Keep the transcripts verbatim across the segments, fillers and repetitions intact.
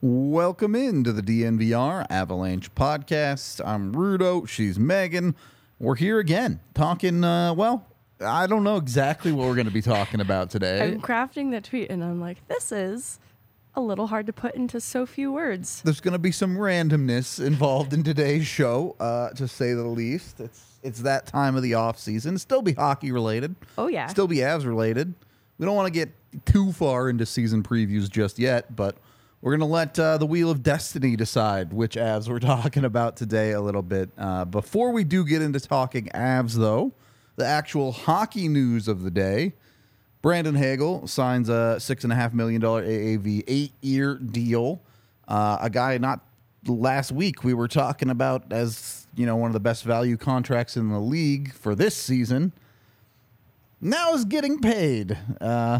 Welcome into the D N V R Avalanche podcast. I'm Rudo. She's Megan. We're here again talking, uh, well, I don't know exactly what we're going to be talking about today. I'm crafting the tweet and I'm like, this is a little hard to put into so few words. There's going to be some randomness involved in today's show, uh, to say the least. It's it's that time of the off season. Still be hockey related. Oh, yeah. Still be Avs related. We don't want to get too far into season previews just yet, but we're going to let uh, the Wheel of Destiny decide which Avs we're talking about today a little bit. Uh, before we do get into talking Avs, though, the actual hockey news of the day, Brandon Hagel signs a six point five million dollars A A V eight-year deal. Uh, a guy not last week we were talking about as, you know, one of the best value contracts in the league for this season. Now is getting paid. Uh,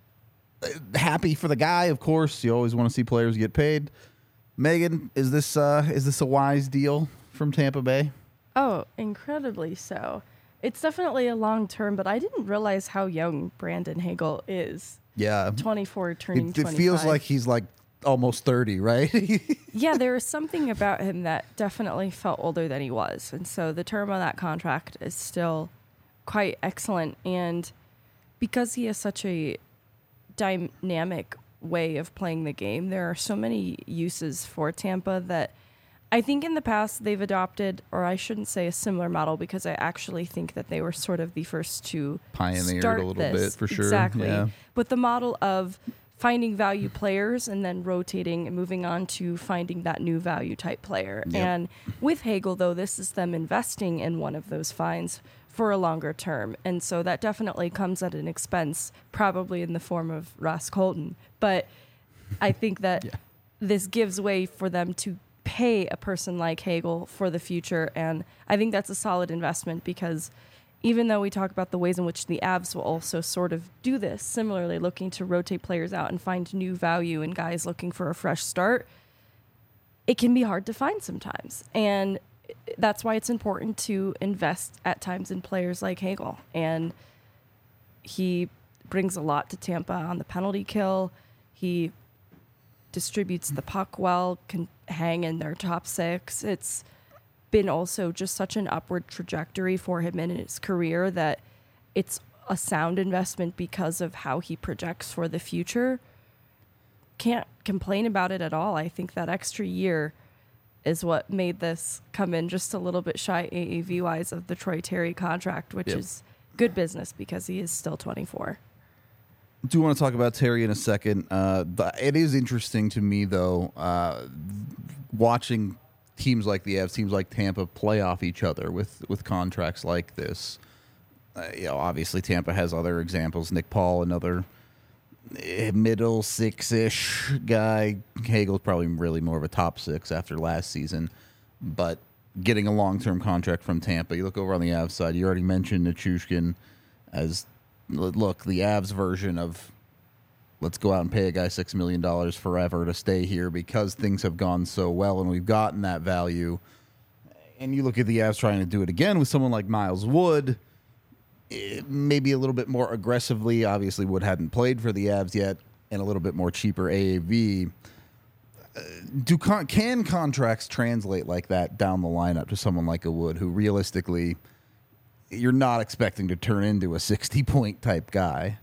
happy for the guy, of course. You always want to see players get paid. Megan, is this uh, is this a wise deal from Tampa Bay? Oh, incredibly so. It's definitely a long term, but I didn't realize how young Brandon Hagel is. Yeah. twenty-four, turning It, it twenty-five. feels like he's like almost thirty, right? Yeah, there was something about him that definitely felt older than he was. And so the term on that contract is still quite excellent. And because he has such a dynamic way of playing the game, there are so many uses for Tampa that I think in the past they've adopted, or I shouldn't say a similar model, because I actually think that they were sort of the first to Pioneered start a little this. bit, for sure. Exactly. Yeah. But the model of finding value players and then rotating and moving on to finding that new value type player. Yep. And with Hagel, though, this is them investing in one of those finds for a longer term. And so that definitely comes at an expense, probably in the form of Ross Colton. But I think that Yeah. this gives way for them to pay a person like Hagel for the future. And I think that's a solid investment, because even though we talk about the ways in which the Avs will also sort of do this, similarly looking to rotate players out and find new value in guys looking for a fresh start, it can be hard to find sometimes. And that's why it's important to invest at times in players like Hagel. And he brings a lot to Tampa on the penalty kill. He distributes the puck well, can hang in their top six. It's been also just such an upward trajectory for him in his career that it's a sound investment because of how he projects for the future. Can't complain about it at all. I think that extra year is what made this come in just a little bit shy A A V-wise of the Troy Terry contract, which Yep. is good business because he is still twenty-four. I do want to talk about Terry in a second. Uh, but it is interesting to me, though, uh, watching teams like the Avs, teams like Tampa play off each other with, with contracts like this. Uh, you know, obviously Tampa has other examples. Nick Paul, another middle six-ish guy. Hagel's probably really more of a top six after last season. But getting a long-term contract from Tampa, you look over on the Avs side, you already mentioned Nichushkin as, look, the Avs version of let's go out and pay a guy six million dollars forever to stay here because things have gone so well and we've gotten that value. And you look at the Avs trying to do it again with someone like Miles Wood, it, maybe a little bit more aggressively. Obviously, Wood hadn't played for the Avs yet, and a little bit more cheaper A A V. Uh, do con- can contracts translate like that down the lineup to someone like a Wood, who realistically you're not expecting to turn into a sixty-point type guy?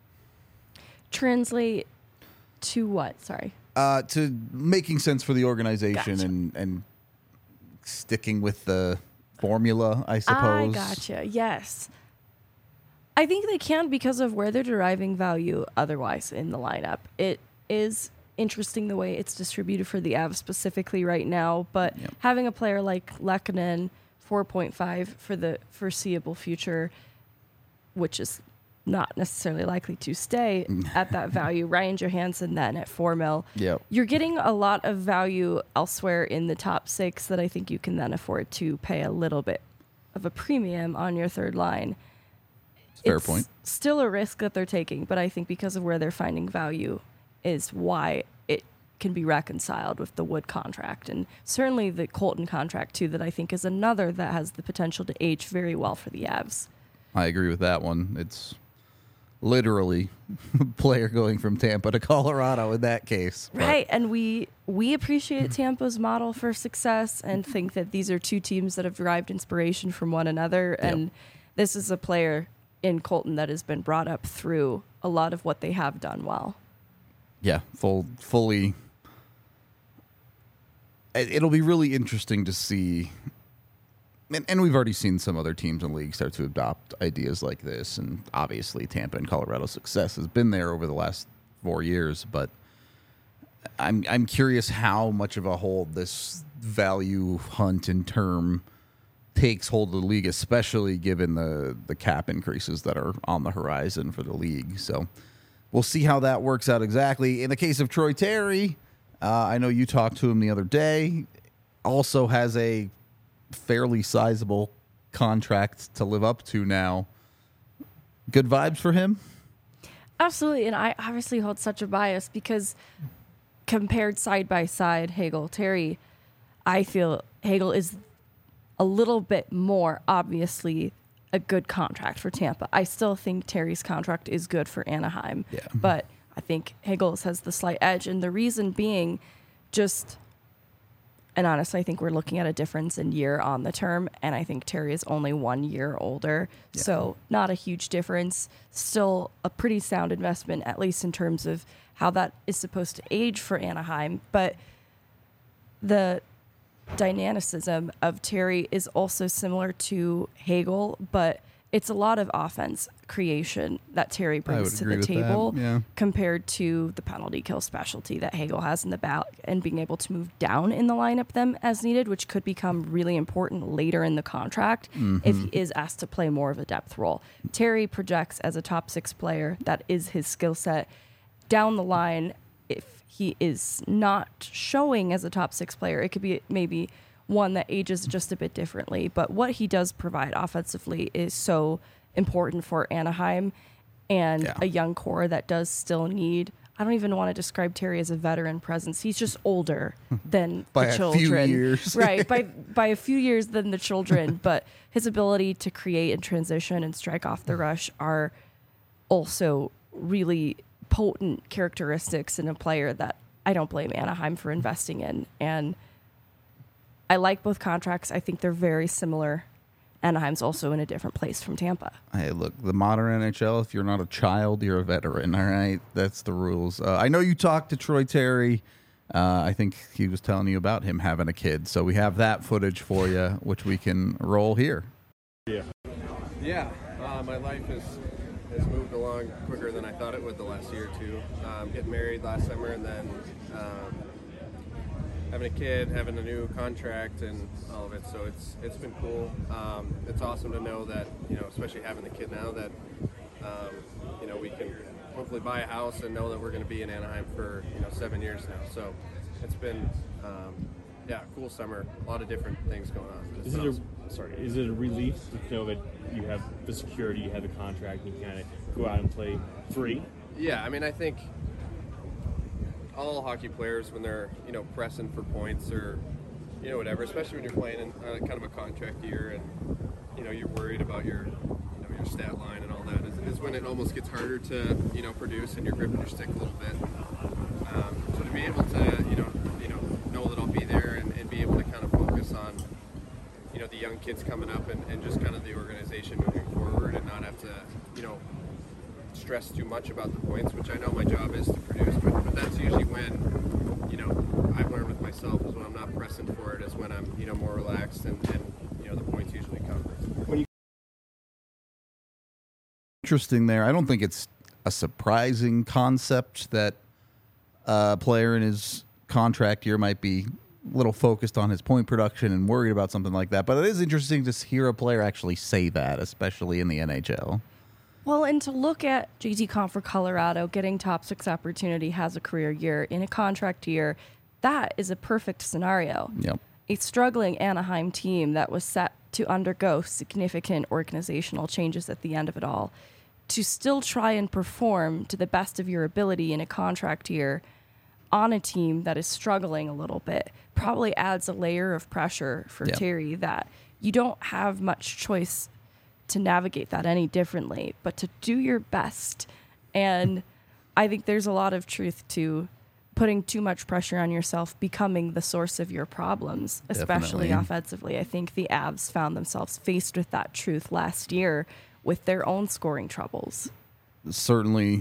Translate to what? Sorry. Uh, to making sense for the organization Gotcha. and, and sticking with the formula, I suppose. I gotcha. Yes. I think they can because of where they're deriving value otherwise in the lineup. It is interesting the way it's distributed for the Avs specifically right now, but Yep. having a player like Lehkonen, four point five for the foreseeable future, which is not necessarily likely to stay at that value. Ryan Johansson then at four mil. Yep. You're getting a lot of value elsewhere in the top six that I think you can then afford to pay a little bit of a premium on your third line. Fair It's point. still a risk that they're taking, but I think because of where they're finding value is why it can be reconciled with the Wood contract, and certainly the Colton contract too, that I think is another that has the potential to age very well for the Avs. I agree with that one. It's literally player going from Tampa to Colorado in that case. But Right, and we we appreciate Tampa's model for success and think that these are two teams that have derived inspiration from one another. Yep. And this is a player in Colton that has been brought up through a lot of what they have done well. Yeah, full, fully. it- It'll be really interesting to see. And, and we've already seen some other teams in the league start to adopt ideas like this. And obviously, Tampa and Colorado's success has been there over the last four years. But I'm I'm curious how much of a hold this value hunt and term takes hold of the league, especially given the, the cap increases that are on the horizon for the league. So we'll see how that works out exactly. In the case of Troy Terry, uh, I know you talked to him the other day, also has a fairly sizable contract to live up to now. Good vibes for him? Absolutely, and I obviously hold such a bias because compared side by side, Hagel, Terry, I feel Hagel is a little bit more obviously a good contract for Tampa. I still think Terry's contract is good for Anaheim, Yeah. but I think Hagel's has the slight edge, and the reason being just, and honestly, I think we're looking at a difference in year on the term, and I think Terry is only one year older, Yeah. so not a huge difference. Still a pretty sound investment, at least in terms of how that is supposed to age for Anaheim, but the dynamicism of Terry is also similar to Hagel, but it's a lot of offense creation that Terry brings would to agree the with that, table yeah. compared to the penalty kill specialty that Hagel has in the back and being able to move down in the lineup them as needed, which could become really important later in the contract if he is asked to play more of a depth role. Terry projects as a top six player. That is his skill set. Down the line, if he is not showing as a top six player, it could be maybe one that ages just a bit differently. But what he does provide offensively is so important for Anaheim and Yeah. a young core that does still need. I don't even want to describe Terry as a veteran presence. He's just older than By the a few children. years. Right, by by a few years than the children, but his ability to create and transition and strike off the rush are also really potent characteristics in a player that I don't blame Anaheim for investing in. And I like both contracts. I think they're very similar. Anaheim's also in a different place from Tampa. Hey, look, the modern N H L, if you're not a child, you're a veteran, all right? That's the rules. Uh, I know you talked to Troy Terry. Uh, I think he was telling you about him having a kid. So we have that footage for you, which we can roll here. Yeah. Yeah. Uh, my life has has moved along quicker than I thought it would the last year or two. Um, getting married last summer and then um, having a kid, having a new contract, and all of it. So it's it's been cool. Um, it's awesome to know that, you know, especially having the kid now, that um, you know, we can hopefully buy a house and know that we're going to be in Anaheim for, you know, seven years now. So it's been um, yeah, cool summer. A lot of different things going on. It's Is it been a, awesome. sorry? Is it a relief to know that you have the security, you have the contract, and you kind of go out and play free? Yeah, I mean, I think all hockey players, when they're, you know, pressing for points or, you know, whatever, especially when you're playing in uh, kind of a contract year and, you know, you're worried about your, you know, your stat line and all that, is, is when it almost gets harder to, you know, produce and you're gripping your stick a little bit. Um, so to be able to, you know, you know, know that I'll be there and, and be able to kind of focus on, you know, the young kids coming up and, and just kind of the organization moving forward and not have to, you know, stress too much about the points, which I know my job is to produce, but, but that's usually when, you know, I've learned with myself is when I'm not pressing for it, is when I'm, you know, more relaxed and, and you know, the points usually come. Interesting there. I don't think it's a surprising concept that a player in his contract year might be a little focused on his point production and worried about something like that. But it is interesting to hear a player actually say that, especially in the N H L. Well, and to look at J T Conn for Colorado, getting top six opportunity, has a career year in a contract year, that is a perfect scenario. Yep. A struggling Anaheim team that was set to undergo significant organizational changes at the end of it all, to still try and perform to the best of your ability in a contract year on a team that is struggling a little bit probably adds a layer of pressure for Yep. Terry that you don't have much choice to navigate that any differently, but to do your best. And I think there's a lot of truth to putting too much pressure on yourself becoming the source of your problems, especially Definitely. offensively. I think the Avs found themselves faced with that truth last year with their own scoring troubles. Certainly,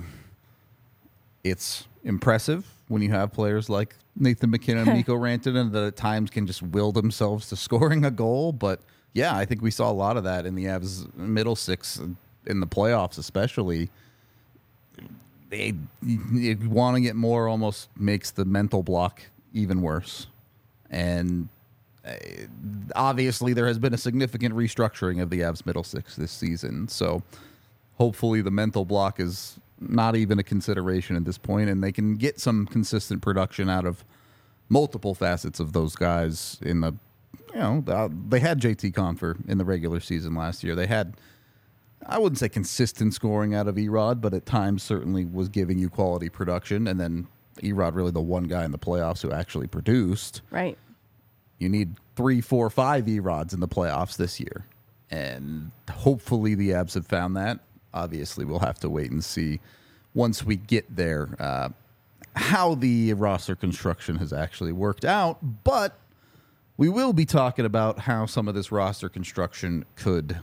it's impressive when you have players like Nathan McKinnon and Mikko Rantanen that at times can just will themselves to scoring a goal. But yeah, I think we saw a lot of that in the Avs middle six in the playoffs, especially. They wanting it more almost makes the mental block even worse. And uh, obviously there has been a significant restructuring of the Avs middle six this season. So hopefully the mental block is not even a consideration at this point, and they can get some consistent production out of multiple facets of those guys in the, you know, the, they had J T Confer in the regular season last year. They had, I wouldn't say consistent scoring out of Erod, but at times certainly was giving you quality production. And then Erod really the one guy in the playoffs who actually produced. Right. You need three, four, five Erods in the playoffs this year. And hopefully the Avs have found that. Obviously, we'll have to wait and see once we get there uh, how the roster construction has actually worked out. But we will be talking about how some of this roster construction could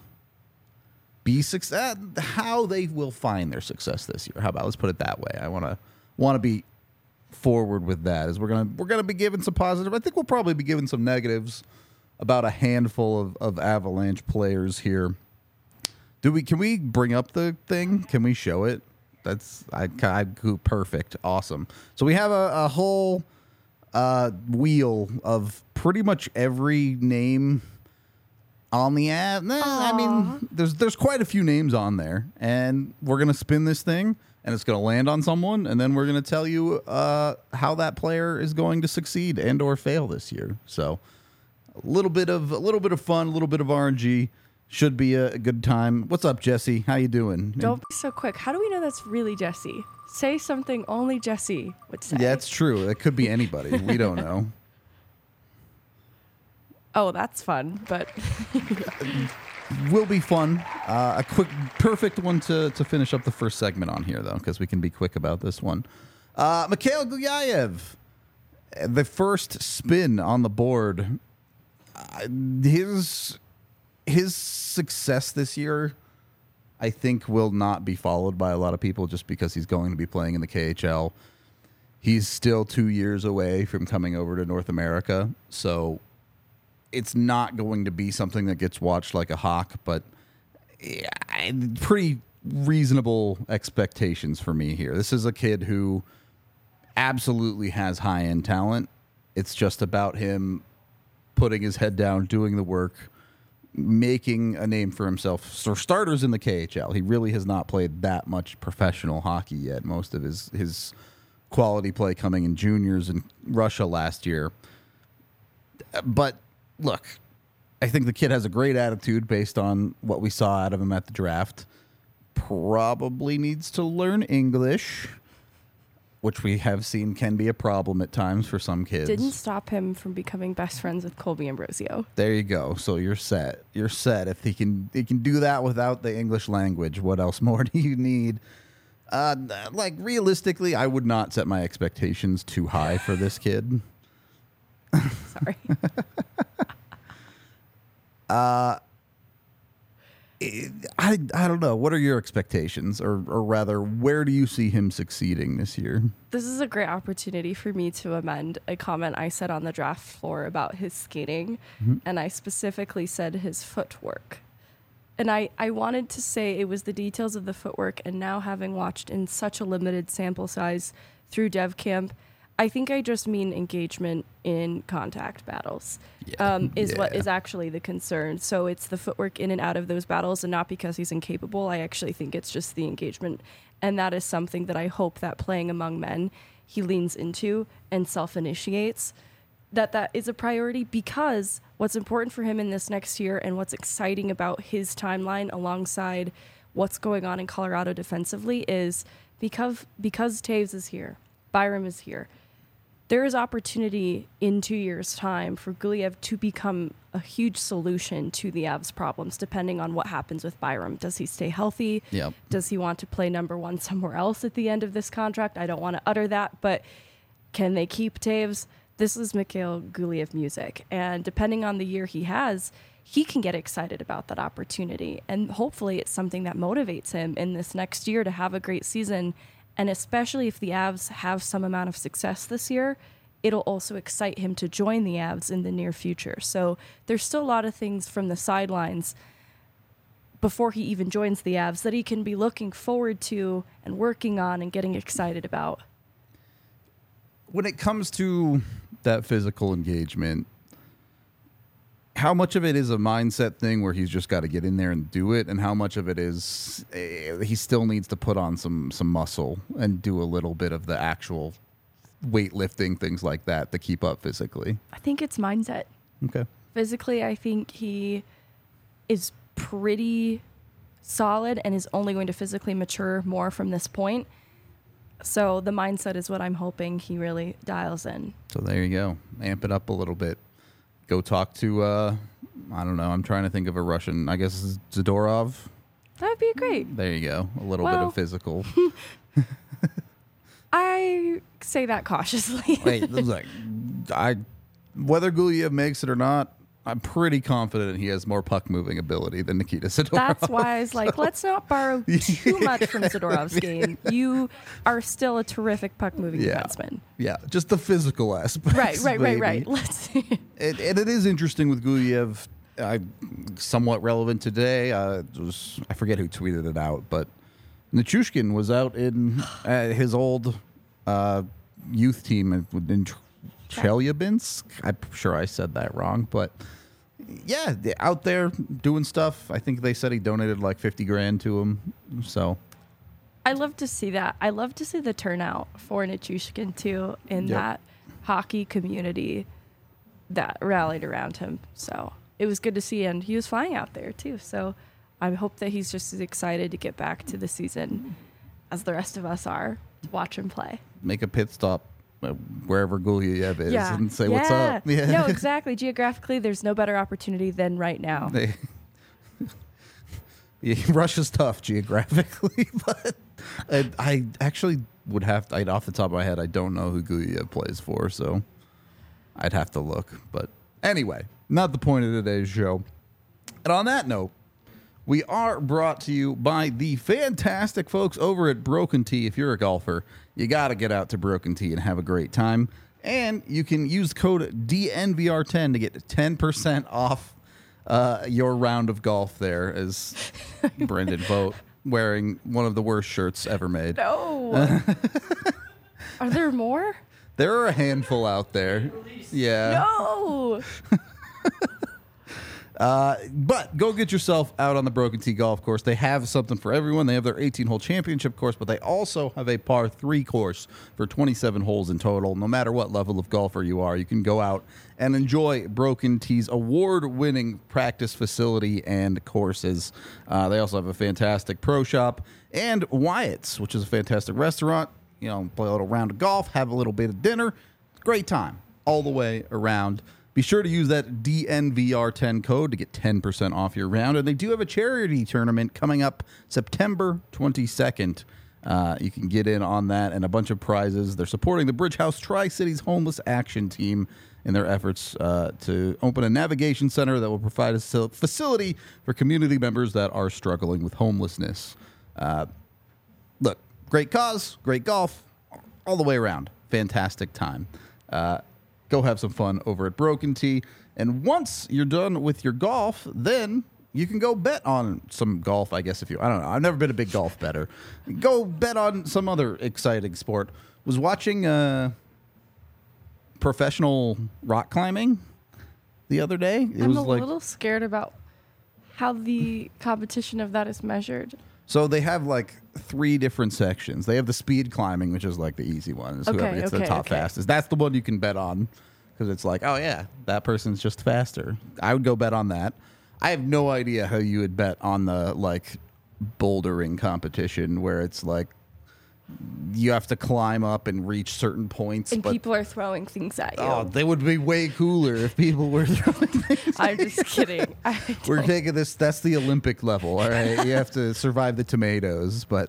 be success, how they will find their success this year. How about, let's put it that way. I want to want to be forward with that, as we're gonna we're gonna be giving some positive. I think we'll probably be giving some negatives about a handful of, of Avalanche players here. Do we? Can we bring up the thing? Can we show it? That's I, I perfect, awesome. So we have a, a whole uh, wheel of pretty much every name on the ad. Nah, I mean, there's there's quite a few names on there, and we're gonna spin this thing, and it's gonna land on someone, and then we're gonna tell you uh, how that player is going to succeed and or fail this year. So a little bit of a little bit of fun, a little bit of R N G. Should be a good time. What's up, Jesse? How you doing? Don't be so quick. How do we know that's really Jesse? Say something only Jesse would say. Yeah, it's true. It could be anybody. We don't know. Oh, that's fun, but Will be fun. Uh, a quick, perfect one to, to finish up the first segment on here, though, because we can be quick about this one. Uh, Mikhail Gulyayev, the first spin on the board. Uh, his... His success this year, I think, will not be followed by a lot of people just because he's going to be playing in the K H L. He's still two years away from coming over to North America, so it's not going to be something that gets watched like a hawk, but yeah, pretty reasonable expectations for me here. This is a kid who absolutely has high-end talent. It's just about him putting his head down, doing the work, making a name for himself. For starters in the K H L, he really has not played that much professional hockey yet. Most of his his quality play coming in juniors in Russia last year. But look, I think the kid has a great attitude based on what we saw out of him at the draft. Probably needs to learn English, which we have seen can be a problem at times for some kids. didn't stop him from becoming best friends with Colby Ambrosio. There you go. So you're set. You're set. If he can, he can do that without the English language. What else more do you need? Uh, like realistically, I would not set my expectations too high for this kid. Sorry. uh, I I don't know. What are your expectations, or or rather, where do you see him succeeding this year? This is a great opportunity for me to amend a comment I said on the draft floor about his skating, mm-hmm. and I specifically said his footwork. And I, I wanted to say it was the details of the footwork, and now having watched in such a limited sample size through Dev Camp, I think I just mean engagement in contact battles yeah. um, is yeah. what is actually the concern. So it's the footwork in and out of those battles, and not because he's incapable. I actually think it's just the engagement. And that is something that I hope that playing among men, he leans into and self-initiates, that that is a priority, because what's important for him in this next year and what's exciting about his timeline alongside what's going on in Colorado defensively is because, because Taves is here, Byram is here, there is opportunity in two years' time for Guliev to become a huge solution to the Avs' problems, depending on what happens with Byram. Does he stay healthy? Yep. Does he want to play number one somewhere else at the end of this contract? I don't want to utter that, but can they keep Taves? This is Mikhail Guliev music. And depending on the year he has, he can get excited about that opportunity. And hopefully it's something that motivates him in this next year to have a great season. And especially if the Avs have some amount of success this year, it'll also excite him to join the Avs in the near future. So there's still a lot of things from the sidelines before he even joins the Avs that he can be looking forward to and working on and getting excited about. When it comes to that physical engagement, how much of it is a mindset thing where he's just got to get in there and do it, and how much of it is uh, he still needs to put on some some muscle and do a little bit of the actual weightlifting, things like that, to keep up physically? I think it's mindset. Okay. Physically, I think he is pretty solid and is only going to physically mature more from this point. So the mindset is what I'm hoping he really dials in. So there you go. Amp it up a little bit. Go talk to, uh, I don't know, I'm trying to think of a Russian, I guess Zadorov. That would be great. There you go. A little bit Well- of physical. I say that cautiously. Wait, this is like, I, whether Guliev makes it or not, I'm pretty confident he has more puck moving ability than Nikita Zadorov. That's why I was like, let's not borrow too much from Zadorov's game. You are still a terrific puck moving Yeah. defenseman. Yeah, just the physical aspect. Right, right, right, right. Let's see. It, and it is interesting with Guliev. I, somewhat relevant today. Uh, it was, I forget who tweeted it out, but Nichushkin was out in uh, his old uh, youth team in, in Chelyabinsk. I'm sure I said that wrong, but yeah, they're out there doing stuff. I think they said he donated like fifty grand to him. So I love to see that. I love to see the turnout for Nichushkin too in Yep. that hockey community that rallied around him. So it was good to see, and he was flying out there too. So I hope that he's just as excited to get back to the season as the rest of us are to watch him play. make a pit stop uh, wherever Guliev is Yeah. and say yeah. what's up. Yeah. No, exactly. Geographically, there's no better opportunity than right now. They, yeah, Russia's tough geographically, but I, I actually would have to, I'd, off the top of my head, I don't know who Guliev plays for, so I'd have to look. But anyway, not the point of today's show. And on that note, we are brought to you by the fantastic folks over at Broken Tee. If you're a golfer, you got to get out to Broken Tee and have a great time. And you can use code D N V R ten to get ten percent off uh, your round of golf there, as Brendan Vogt wearing one of the worst shirts ever made. No. Are there more? There are a handful out there. Yeah. No. Uh, but go get yourself out on the Broken Tee Golf Course. They have something for everyone. They have their eighteen-hole championship course, but they also have a par three course for twenty-seven holes in total. No matter what level of golfer you are, you can go out and enjoy Broken Tee's award-winning practice facility and courses. Uh, they also have a fantastic pro shop and Wyatt's, which is a fantastic restaurant. You know, play a little round of golf, have a little bit of dinner. Great time all the way around. Be sure to use that D N V R ten code to get ten percent off your round. And they do have a charity tournament coming up September twenty-second. Uh, you can get in on that and a bunch of prizes. They're supporting the Bridge House Tri-Cities Homeless Action Team in their efforts uh, to open a navigation center that will provide a facility for community members that are struggling with homelessness. Uh, look, great cause, great golf, all the way around. Fantastic time. Uh, Go have some fun over at Broken Tee. And once you're done with your golf, then you can go bet on some golf, I guess, if you... I don't know. I've never been a big golf bettor. Go bet on some other exciting sport. Was watching uh, professional rock climbing the other day. It I'm was a like, little scared about how the competition of that is measured. So they have like three different sections. They have the speed climbing, which is like the easy one. It's whoever Okay, gets the okay, top okay. fastest. That's the one you can bet on because it's like, oh yeah, that person's just faster. I would go bet on that. I have no idea how you would bet on the like bouldering competition where it's like you have to climb up and reach certain points. And but, people are throwing things at you. oh, they would be way cooler if people were throwing things. I'm just kidding. I We're don't- taking this. That's the Olympic level. All right, you have to survive the tomatoes, but.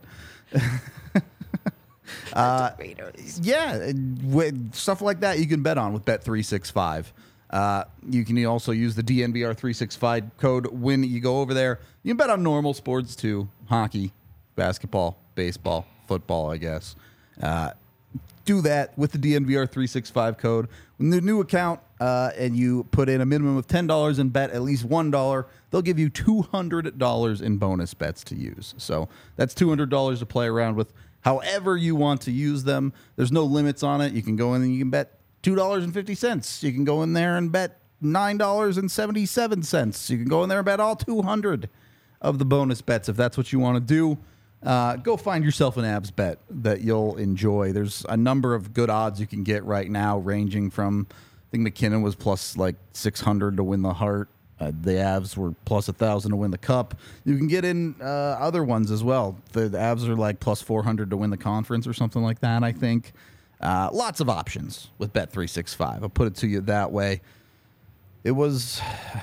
tomatoes. Yeah, and with stuff like that you can bet on with Bet three sixty-five. Uh, you can also use the D N V R three sixty-five code when you go over there. You can bet on normal sports too: hockey, basketball, baseball, football, I guess. Uh, do that with the D N V R three sixty-five code. When the new account uh, and you put in a minimum of ten dollars and bet at least one dollar, they'll give you two hundred dollars in bonus bets to use. So that's two hundred dollars to play around with however you want to use them. There's no limits on it. You can go in and you can bet two dollars and fifty cents. You can go in there and bet nine dollars and seventy-seven cents. You can go in there and bet all two hundred of the bonus bets if that's what you want to do. Uh, go find yourself an abs bet that you'll enjoy. There's a number of good odds you can get right now, ranging from, I think McKinnon was plus like six hundred to win the Hart. Uh, the Avs were plus one thousand to win the Cup. You can get in uh, other ones as well. The, the Avs are like plus four hundred to win the conference or something like that, I think. Uh, lots of options with Bet three sixty-five. I'll put it to you that way. It was,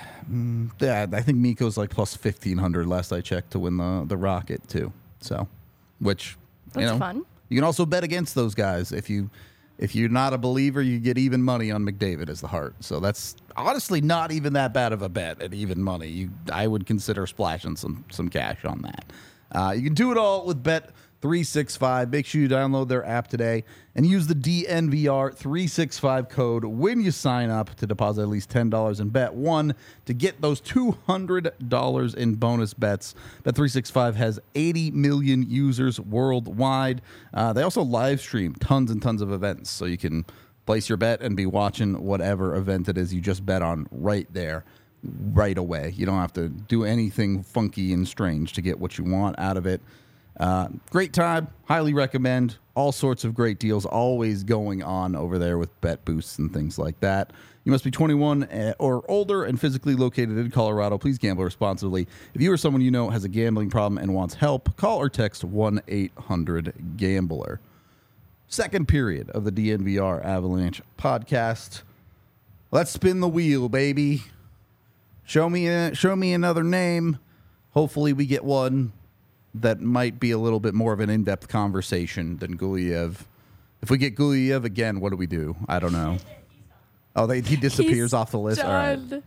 mm, yeah, I think Mikko's like plus fifteen hundred last I checked to win the, the Rocket too. So, which, you That's know, fun. you can also bet against those guys. If you, if you're not a believer, you get even money on McDavid as the Hart. So that's honestly not even that bad of a bet at even money. You, I would consider splashing some some cash on that. Uh, you can do it all with Bet three sixty-five. Make sure you download their app today and use the D N V R three sixty-five code when you sign up to deposit at least ten dollars and bet one to get those two hundred dollars in bonus bets. Bet three sixty-five has eighty million users worldwide. Uh, they also live stream tons and tons of events, so you can place your bet and be watching whatever event it is you just bet on right there, right away. You don't have to do anything funky and strange to get what you want out of it. Uh, great time. Highly recommend. All sorts of great deals always going on over there with bet boosts and things like that. You must be twenty-one or older and physically located in Colorado. Please gamble responsibly. If you or someone you know has a gambling problem and wants help, call or text one eight hundred gambler. Second period of the D N V R Avalanche podcast. Let's spin the wheel, baby. Show me a, show me another name. Hopefully we get one that might be a little bit more of an in-depth conversation than Gulyev. If we get Gulyev again, what do we do? I don't know. Oh, they, he disappears He's off the list. All right. done.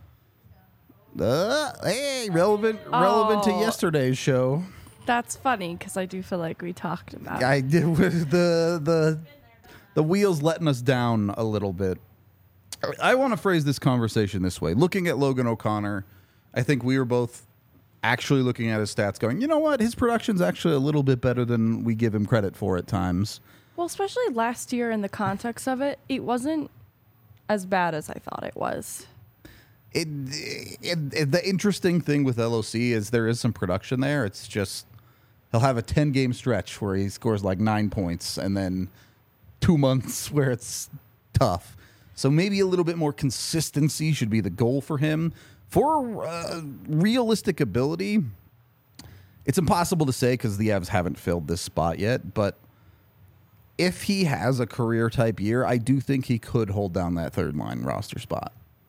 Uh, hey, relevant, relevant to Oh. yesterday's show. That's funny because I do feel like we talked about it. I did with the the the wheels letting us down a little bit. I want to phrase this conversation this way. Looking at Logan O'Connor, I think we were both actually looking at his stats going, you know what? His production's actually a little bit better than we give him credit for at times. Well, especially last year in the context of it, it wasn't as bad as I thought it was. It, it, it the interesting thing with L O C is there is some production there. It's just he'll have a ten-game stretch where he scores like nine points and then two months where it's tough. So maybe a little bit more consistency should be the goal for him. For uh, realistic ability, it's impossible to say because the Avs haven't filled this spot yet. But if he has a career-type year, I do think he could hold down that third-line roster spot.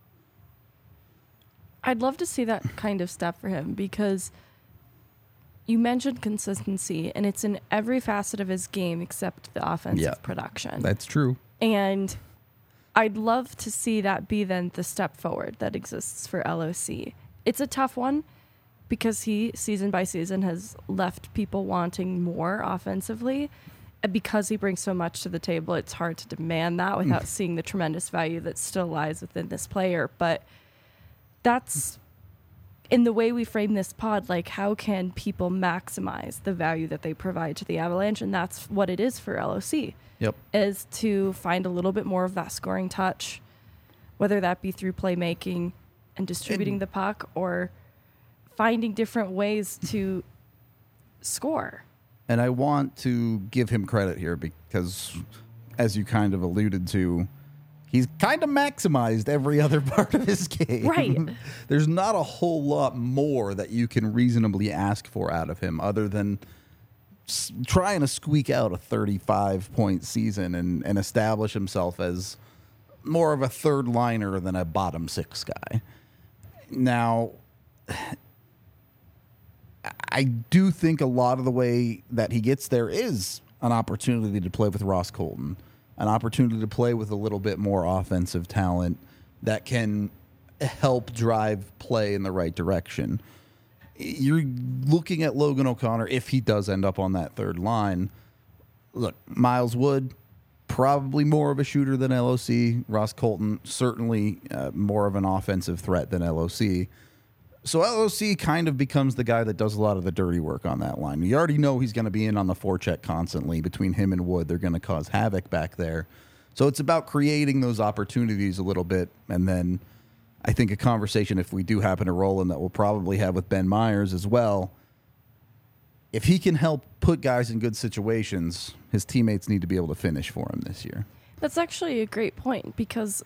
I'd love to see that kind of step for him because you mentioned consistency, and it's in every facet of his game except the offensive Yeah. production. That's true. And I'd love to see that be then the step forward that exists for L O C. It's a tough one because he, season by season, has left people wanting more offensively. And because he brings so much to the table, it's hard to demand that without seeing the tremendous value that still lies within this player. But that's, in the way we frame this pod, like how can people maximize the value that they provide to the Avalanche? And that's what it is for L O C. Yep. Is to find a little bit more of that scoring touch, whether that be through playmaking and distributing And- the puck or finding different ways to score. And I want to give him credit here because, as you kind of alluded to, he's kind of maximized every other part of his game. Right. There's not a whole lot more that you can reasonably ask for out of him other than s- trying to squeak out a thirty-five point season and, and establish himself as more of a third liner than a bottom six guy. Now, I do think a lot of the way that he gets there is an opportunity to play with Ross Colton, an opportunity to play with a little bit more offensive talent that can help drive play in the right direction. You're looking at Logan O'Connor if he does end up on that third line. Look, Miles Wood, probably more of a shooter than L O C. Ross Colton, certainly uh, more of an offensive threat than L O C. So L O C kind of becomes the guy that does a lot of the dirty work on that line. You already know he's going to be in on the forecheck constantly. Between him and Wood, they're going to cause havoc back there. So it's about creating those opportunities a little bit. And then I think a conversation, if we do happen to roll in, that we'll probably have with Ben Myers as well. If he can help put guys in good situations, his teammates need to be able to finish for him this year. That's actually a great point, because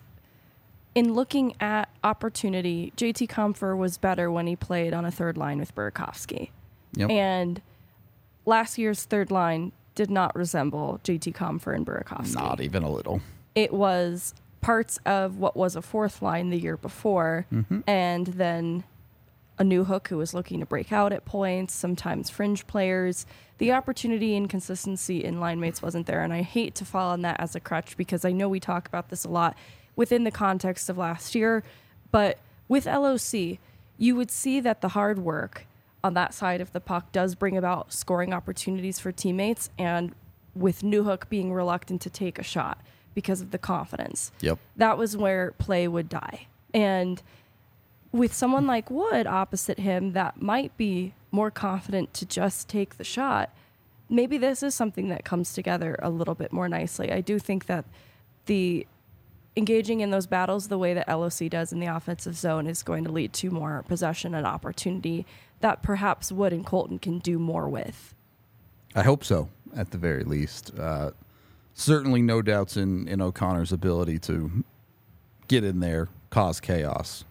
in looking at opportunity, J T Compher was better when he played on a third line with Burakovsky. Yep. And last year's third line did not resemble J T Compher and Burakovsky. Not even a little. It was parts of what was a fourth line the year before, Mm-hmm. and then a new hook who was looking to break out at points, sometimes fringe players. The opportunity and consistency in line mates wasn't there, and I hate to fall on that as a crutch, because I know we talk about this a lot within the context of last year, but with L O C, you would see that the hard work on that side of the puck does bring about scoring opportunities for teammates, and with Newhook being reluctant to take a shot because of the confidence. Yep. That was where play would die. And with someone like Wood opposite him that might be more confident to just take the shot, maybe this is something that comes together a little bit more nicely. I do think that the engaging in those battles the way that L O C does in the offensive zone is going to lead to more possession and opportunity that perhaps Wood and Colton can do more with. I hope so, at the very least. Uh, certainly no doubts in, in O'Connor's ability to get in there, cause chaos.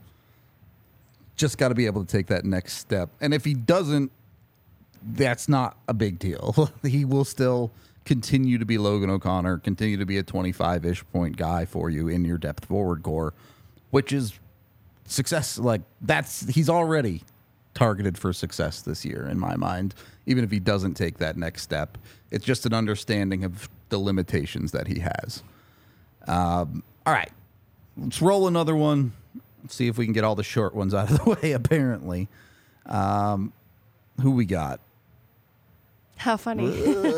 Just got to be able to take that next step. And if he doesn't, that's not a big deal. He will still continue to be Logan O'Connor, continue to be a twenty-five-ish point guy for you in your depth forward core, which is success. Like, that's, he's already targeted for success this year in my mind, even if he doesn't take that next step. It's just an understanding of the limitations that he has. Um, all right, let's roll another one. Let's see if we can get all the short ones out of the way, apparently. Um, who we got? How funny.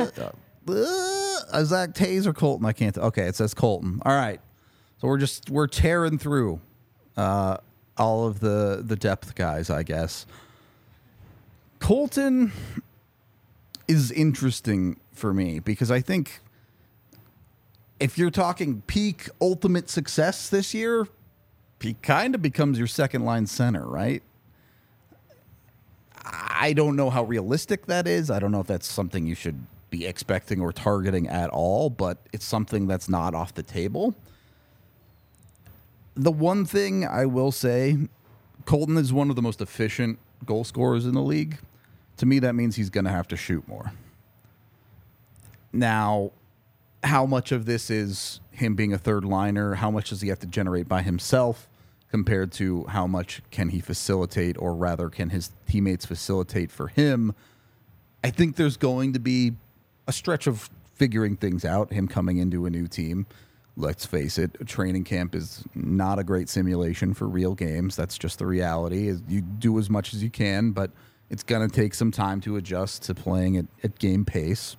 Uh, Zach Taze or Colton? I can't. T- okay, it says Colton. All right. So we're just, we're tearing through uh, all of the, the depth guys, I guess. Colton is interesting for me because I think if you're talking peak ultimate success this year, he kind of becomes your second line center, right? I don't know how realistic that is. I don't know if that's something you should be expecting or targeting at all, but it's something that's not off the table. The one thing I will say, Colton is one of the most efficient goal scorers in the league. To me, that means he's going to have to shoot more. Now, how much of this is him being a third liner? How much does he have to generate by himself compared to how much can he facilitate, or rather can his teammates facilitate for him? I think there's going to be a stretch of figuring things out, him coming into a new team. Let's face it, training camp is not a great simulation for real games. That's just the reality. You do as much as you can, but it's going to take some time to adjust to playing at, at game pace.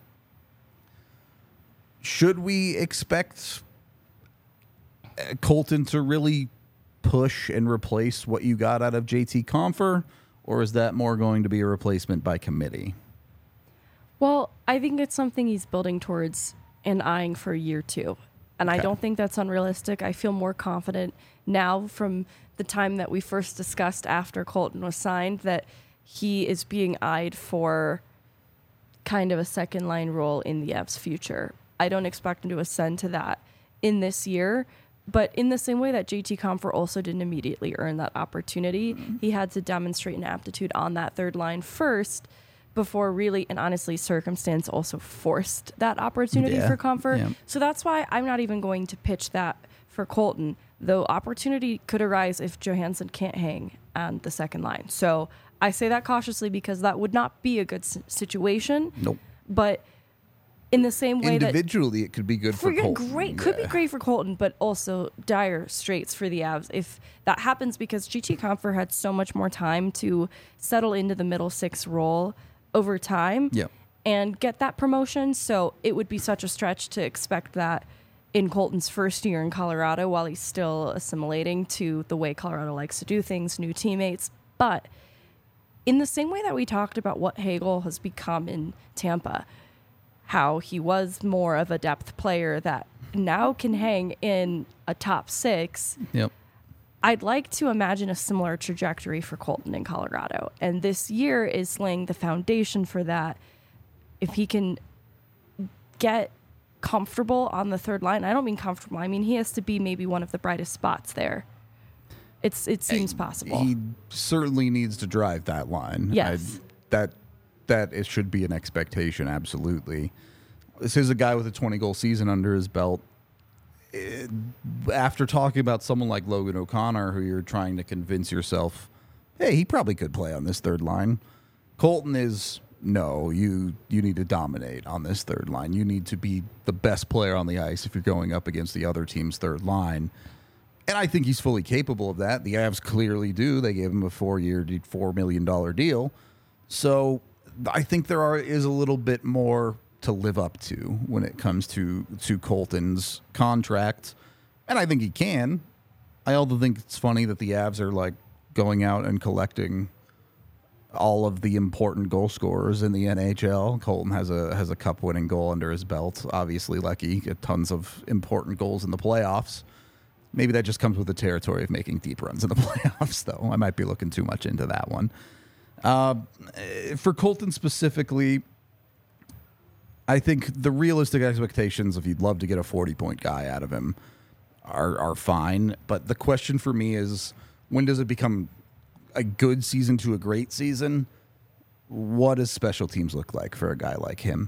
Should we expect Colton to really push and replace what you got out of J T Compher, or is that more going to be a replacement by committee? Well, I think it's something he's building towards and eyeing for year two. And okay. I don't think that's unrealistic. I feel more confident now from the time that we first discussed after Colton was signed that he is being eyed for kind of a second line role in the Avs' future. I don't expect him to ascend to that in this year, but in the same way that J T Compher also didn't immediately earn that opportunity, mm-hmm. he had to demonstrate an aptitude on that third line first before really and honestly circumstance also forced that opportunity Yeah. for Comfort. Yeah. So that's why I'm not even going to pitch that for Colton, though opportunity could arise if Johansson can't hang on the second line. So I say that cautiously because that would not be a good s- situation. Nope. But in the same way that Individually, it could be good for, for Colton. great could be Yeah. great for Colton, but also dire straits for the Avs if that happens because G T Comfort had so much more time to settle into the middle six role over time Yeah. and get that promotion. So it would be such a stretch to expect that in Colton's first year in Colorado while he's still assimilating to the way Colorado likes to do things, new teammates. But in the same way that we talked about what Hagel has become in Tampa, how he was more of a depth player that now can hang in a top six, Yep. I'd like to imagine a similar trajectory for Colton in Colorado. And this year is laying the foundation for that. If he can get comfortable on the third line, I don't mean comfortable, I mean he has to be maybe one of the brightest spots there. It's It seems possible. He certainly needs to drive that line. Yes. I, that that it should be an expectation, absolutely. This is a guy with a twenty-goal season under his belt. It- after talking about someone like Logan O'Connor, who you're trying to convince yourself, hey, he probably could play on this third line. Colton is, no, you you need to dominate on this third line. You need to be the best player on the ice if you're going up against the other team's third line. And I think he's fully capable of that. The Avs clearly do. They gave him a four-year, four million dollars deal. So I think there are is a little bit more to live up to when it comes to, to Colton's contract. And I think he can. I also think it's funny that the Avs are like going out and collecting all of the important goal scorers in the N H L. Colton has a has a cup-winning goal under his belt. Obviously, Lecky got tons of important goals in the playoffs. Maybe that just comes with the territory of making deep runs in the playoffs, though. I might be looking too much into that one. Uh, for Colton specifically, I think the realistic expectations, if you'd love to get a forty-point guy out of him, are are fine. But the question for me is, when does it become a good season to a great season? What does special teams look like for a guy like him?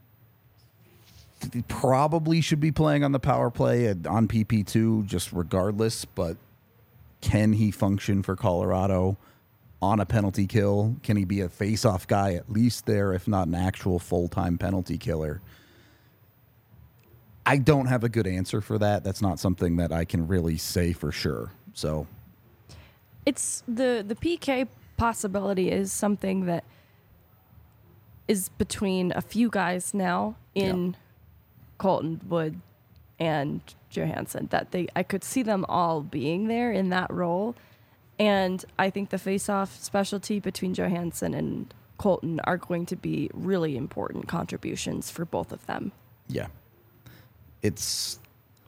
He probably should be playing on the power play and on P P two just regardless, but can he function for Colorado on a penalty kill? Can he be a face-off guy at least there, if not an actual full-time penalty killer? I don't have a good answer for that. That's not something that I can really say for sure. So It's the the P K possibility is something that is between a few guys now in Yeah. Colton, Wood, and Johansson. That they I could see them all being there in that role, and I think the face-off specialty between Johansson and Colton are going to be really important contributions for both of them. yeah, it's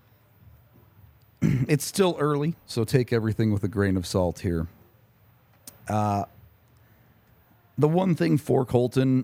it's still early, so take everything with a grain of salt here. Uh, the one thing for Colton,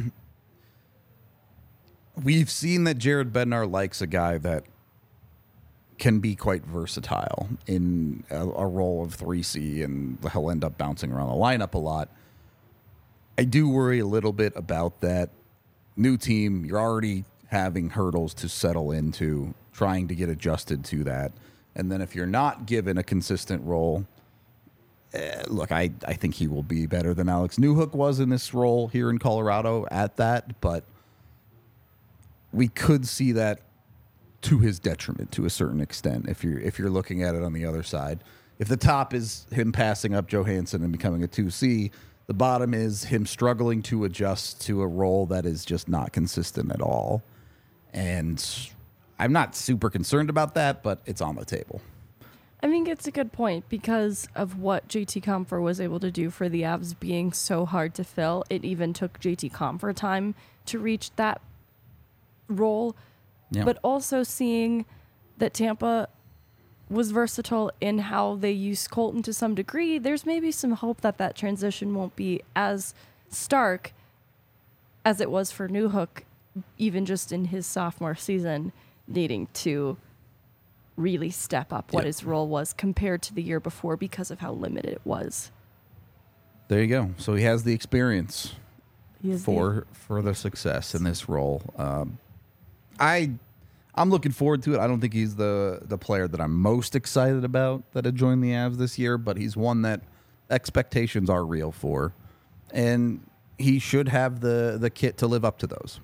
we've seen that Jared Bednar likes a guy that can be quite versatile in a, a role of three C, and he'll end up bouncing around the lineup a lot. I do worry a little bit about that. New team, you're already having hurdles to settle into, trying to get adjusted to that. And then if you're not given a consistent role, eh, look, I, I think he will be better than Alex Newhook was in this role here in Colorado at that, but we could see that to his detriment to a certain extent if you're if you're looking at it on the other side. If the top is him passing up Johansson and becoming a two C, the bottom is him struggling to adjust to a role that is just not consistent at all. And I'm not super concerned about that, but it's on the table. I think it's a good point because of what J T Compher was able to do for the Avs being so hard to fill. It even took J T Compher time to reach that role, Yeah. but also seeing that Tampa was versatile in how they use Colton to some degree, there's maybe some hope that that transition won't be as stark as it was for Newhook, even just in his sophomore season, needing to really step up what Yep. his role was compared to the year before because of how limited it was. There you go. So he has the experience. He is for for the success in this role. Um, I I'm looking forward to it. I don't think he's the the player that I'm most excited about that had joined the Avs this year, but he's one that expectations are real for, and he should have the the kit to live up to those.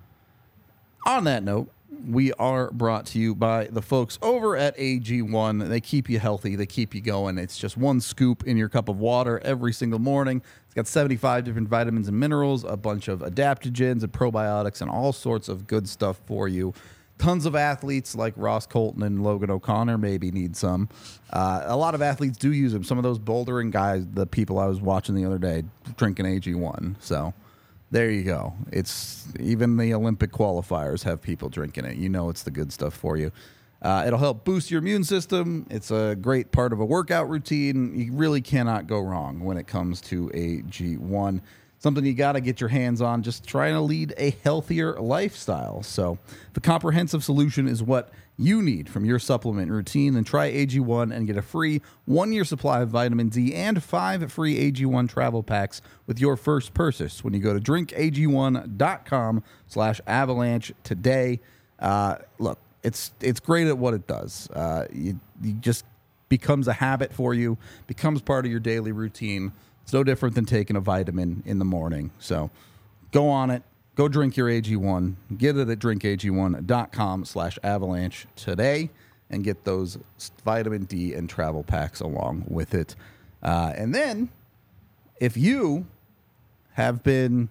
On that note, we are brought to you by the folks over at A G one. They keep you healthy. They keep you going. It's just one scoop in your cup of water every single morning. It's got seventy-five different vitamins and minerals, a bunch of adaptogens and probiotics, and all sorts of good stuff for you. Tons of athletes like Ross Colton and Logan O'Connor maybe need some. Uh, a lot of athletes do use them. Some of those bouldering guys, the people I was watching the other day, drinking A G one. So there you go. It's even the Olympic qualifiers have people drinking it. You know it's the good stuff for you. Uh, it'll help boost your immune system. It's a great part of a workout routine. You really cannot go wrong when it comes to A G one. Something you got to get your hands on, just trying to lead a healthier lifestyle. So the comprehensive solution is what you need from your supplement routine. Then try A G one and get a free one-year supply of vitamin D and five free A G one travel packs with your first purchase when you go to drink A G one dot com slash avalanche today. Uh, look, it's it's great at what it does. Uh, you, you just becomes a habit for you, becomes part of your daily routine. It's no different than taking a vitamin in the morning. So go on it. Go drink your A G one. Get it at drink A G one dot com slash avalanche today and get those vitamin D and travel packs along with it. Uh, and then if you have been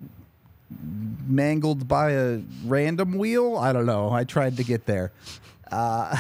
mangled by a random wheel, I don't know. I tried to get there. Uh,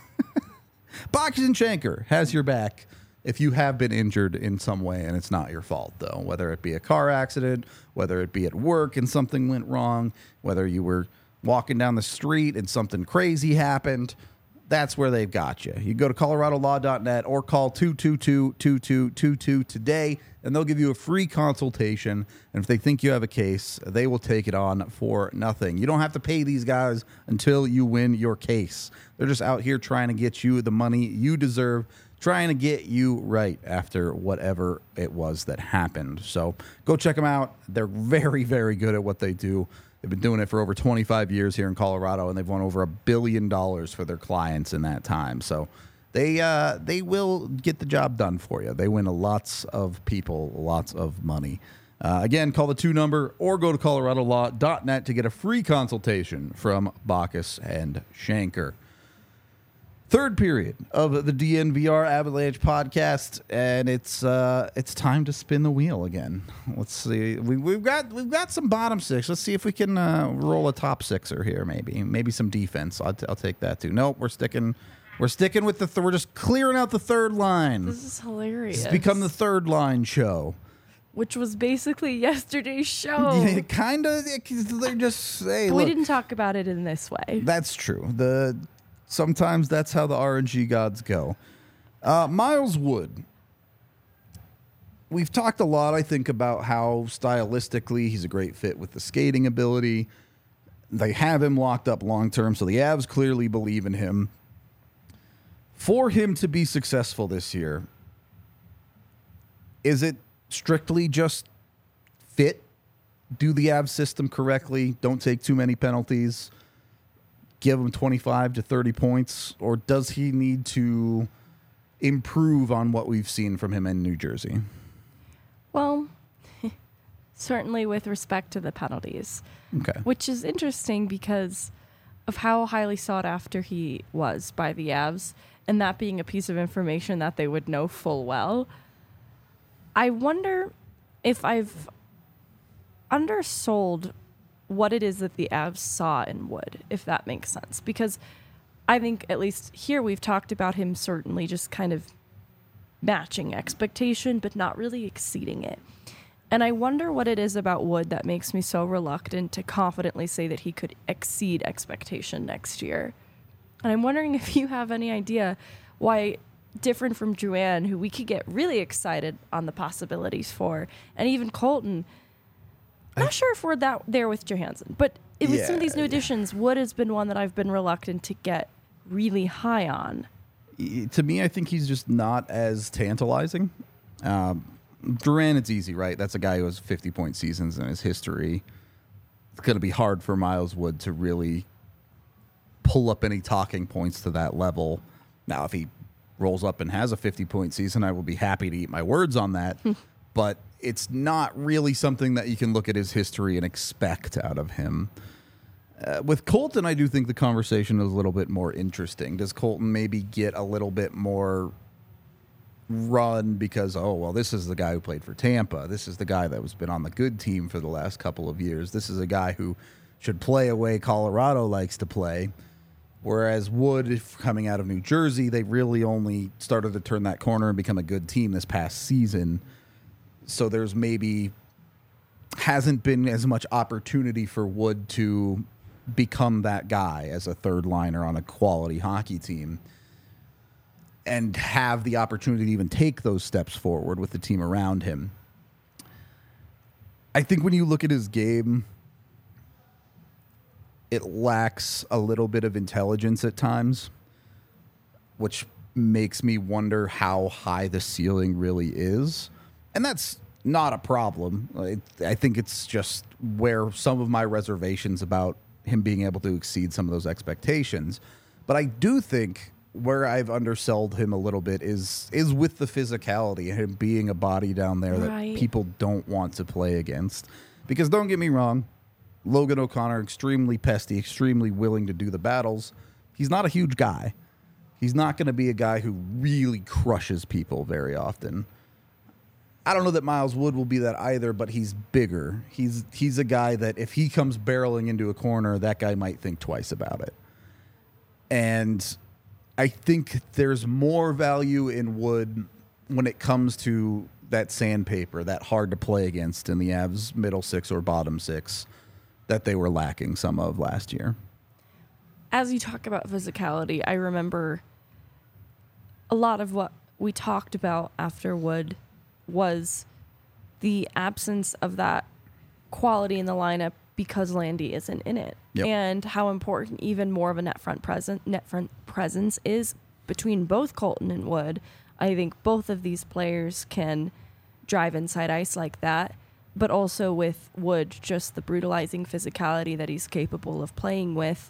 Bachus and Schanker has your back. If you have been injured in some way and it's not your fault, though, whether it be a car accident, whether it be at work and something went wrong, whether you were walking down the street and something crazy happened, that's where they've got you. You go to colorado law dot net or call two two two, two two two two today, and they'll give you a free consultation. And if they think you have a case, they will take it on for nothing. You don't have to pay these guys until you win your case. They're just out here trying to get you the money you deserve, trying to get you right after whatever it was that happened. So go check them out. They're very, very good at what they do. They've been doing it for over twenty-five years here in Colorado, and they've won over a billion dollars for their clients in that time. So they uh, they will get the job done for you. They win lots of people, lots of money. Uh, again, call the two number or go to colorado law dot net to get a free consultation from Bachus and Schanker. Third period of the D N V R Avalanche podcast, and it's uh, it's time to spin the wheel again. Let's see, we, we've got we've got some bottom six. Let's see if we can uh, roll a top sixer here. Maybe maybe some defense. I'll, t- I'll take that too. Nope, we're sticking we're sticking with the th- we're just clearing out the third line. This is hilarious. It's become the third line show, which was basically yesterday's show. Yeah, kind of. They're just hey, we look, didn't talk about it in this way. That's true. The Sometimes that's how the R N G gods go. Uh, Miles Wood. We've talked a lot, I think, about how stylistically he's a great fit with the skating ability. They have him locked up long term, so the Avs clearly believe in him. For him to be successful this year, is it strictly just fit? Do the Avs system correctly? Don't take too many penalties? Give him twenty-five to thirty points, or does he need to improve on what we've seen from him in New Jersey? Well, certainly with respect to the penalties. Okay. Which is interesting because of how highly sought after he was by the Avs, and that being a piece of information that they would know full well. I wonder if I've undersold what it is that the Avs saw in Wood, if that makes sense. Because I think, at least here, we've talked about him certainly just kind of matching expectation, but not really exceeding it. And I wonder what it is about Wood that makes me so reluctant to confidently say that he could exceed expectation next year. And I'm wondering if you have any idea why, different from Drouin, who we could get really excited on the possibilities for, and even Colton, not sure if we're that there with Johansson, but it, with yeah, some of these new yeah. additions, Wood has been one that I've been reluctant to get really high on. To me, I think he's just not as tantalizing. Um, Durant, it's easy, right? That's a guy who has fifty-point seasons in his history. It's going to be hard for Miles Wood to really pull up any talking points to that level. Now, if he rolls up and has a fifty-point season, I will be happy to eat my words on that. But it's not really something that you can look at his history and expect out of him. Uh, with Colton, I do think the conversation is a little bit more interesting. Does Colton maybe get a little bit more run because, oh, well, this is the guy who played for Tampa. This is the guy that has been on the good team for the last couple of years. This is a guy who should play a way Colorado likes to play. Whereas Wood, if coming out of New Jersey, they really only started to turn that corner and become a good team this past season. So there's maybe hasn't been as much opportunity for Wood to become that guy as a third liner on a quality hockey team and have the opportunity to even take those steps forward with the team around him. I think when you look at his game, it lacks a little bit of intelligence at times, which makes me wonder how high the ceiling really is. And that's not a problem. I, I think it's just where some of my reservations about him being able to exceed some of those expectations. But I do think where I've undersold him a little bit is is with the physicality and him being a body down there Right. that people don't want to play against. Because don't get me wrong, Logan O'Connor, extremely pesty, extremely willing to do the battles. He's not a huge guy. He's not going to be a guy who really crushes people very often. I don't know that Miles Wood will be that either, but he's bigger. He's he's a guy that if he comes barreling into a corner, that guy might think twice about it. And I think there's more value in Wood when it comes to that sandpaper, that hard to play against in the Avs middle six or bottom six that they were lacking some of last year. As you talk about physicality, I remember a lot of what we talked about after Wood was the absence of that quality in the lineup because Landy isn't in it. Yep. And how important even more of a net front present net front presence is between both Colton and Wood. I think both of these players can drive inside ice like that, but also with Wood, just the brutalizing physicality that he's capable of playing with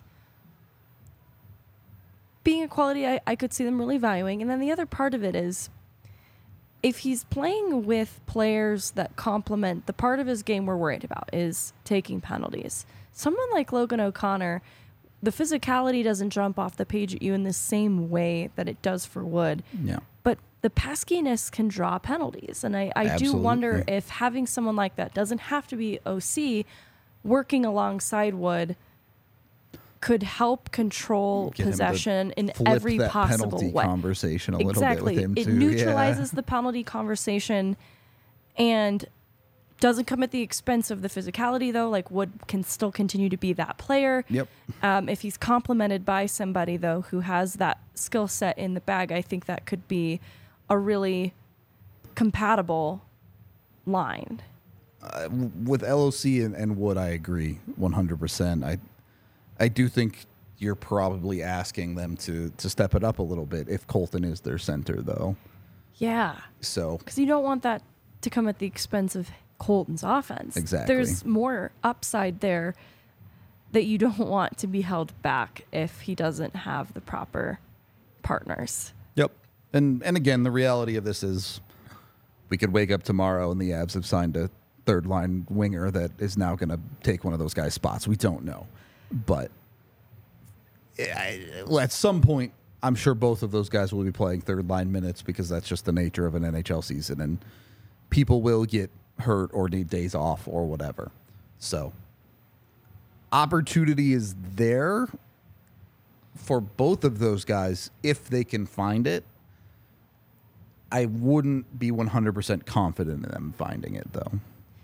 being a quality I, I could see them really valuing. And then the other part of it is if he's playing with players that complement the part of his game we're worried about is taking penalties. Someone like Logan O'Connor, the physicality doesn't jump off the page at you in the same way that it does for Wood. Yeah. But the peskiness can draw penalties. And I, I do Absolutely. wonder if having someone like that doesn't have to be O C, working alongside Wood could help control Get him to possession in flip every that possible penalty way. conversation a little Exactly. bit with him It too. neutralizes Yeah. the penalty conversation and doesn't come at the expense of the physicality, though. Like, Wood can still continue to be that player. Yep. Um, if he's complemented by somebody, though, who has that skill set in the bag, I think that could be a really compatible line. Uh, with L O C and, and Wood, I agree one hundred percent. I I do think you're probably asking them to to step it up a little bit if Colton is their center, though. Yeah. So Because you don't want that to come at the expense of Colton's offense. Exactly. There's more upside there that you don't want to be held back if he doesn't have the proper partners. Yep. And and again, the reality of this is we could wake up tomorrow and the Avs have signed a third line winger that is now going to take one of those guys' spots. We don't know. But I, at some point, I'm sure both of those guys will be playing third line minutes because that's just the nature of an N H L season. And people will get hurt or need days off or whatever. So opportunity is there for both of those guys if they can find it. I wouldn't be one hundred percent confident in them finding it, though.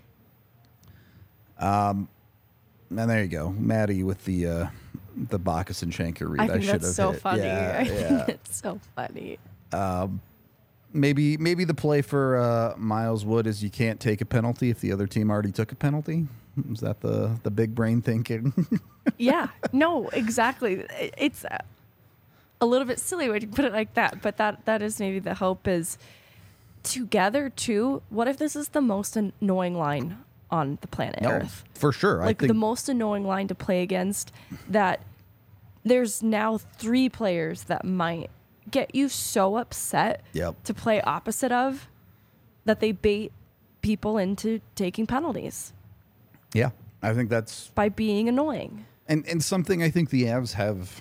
Um, and there you go, Maddie with the uh, the Bacchus and Schenker read. I I, think should that's have so hit. funny. Yeah, I yeah. think it's so funny. Maybe maybe the play for uh, Miles Wood is you can't take a penalty if the other team already took a penalty. Is that the the big brain thinking? Yeah. No, exactly. It- It's a- a little bit silly when you put it like that, but that that is maybe the hope is together too, what if this is the most annoying line on the planet No, Earth? for sure. Like I think the most annoying line to play against, that there's now three players that might get you so upset Yep. to play opposite of that they bait people into taking penalties Yeah, I think that's by being annoying. and and something I think the Avs have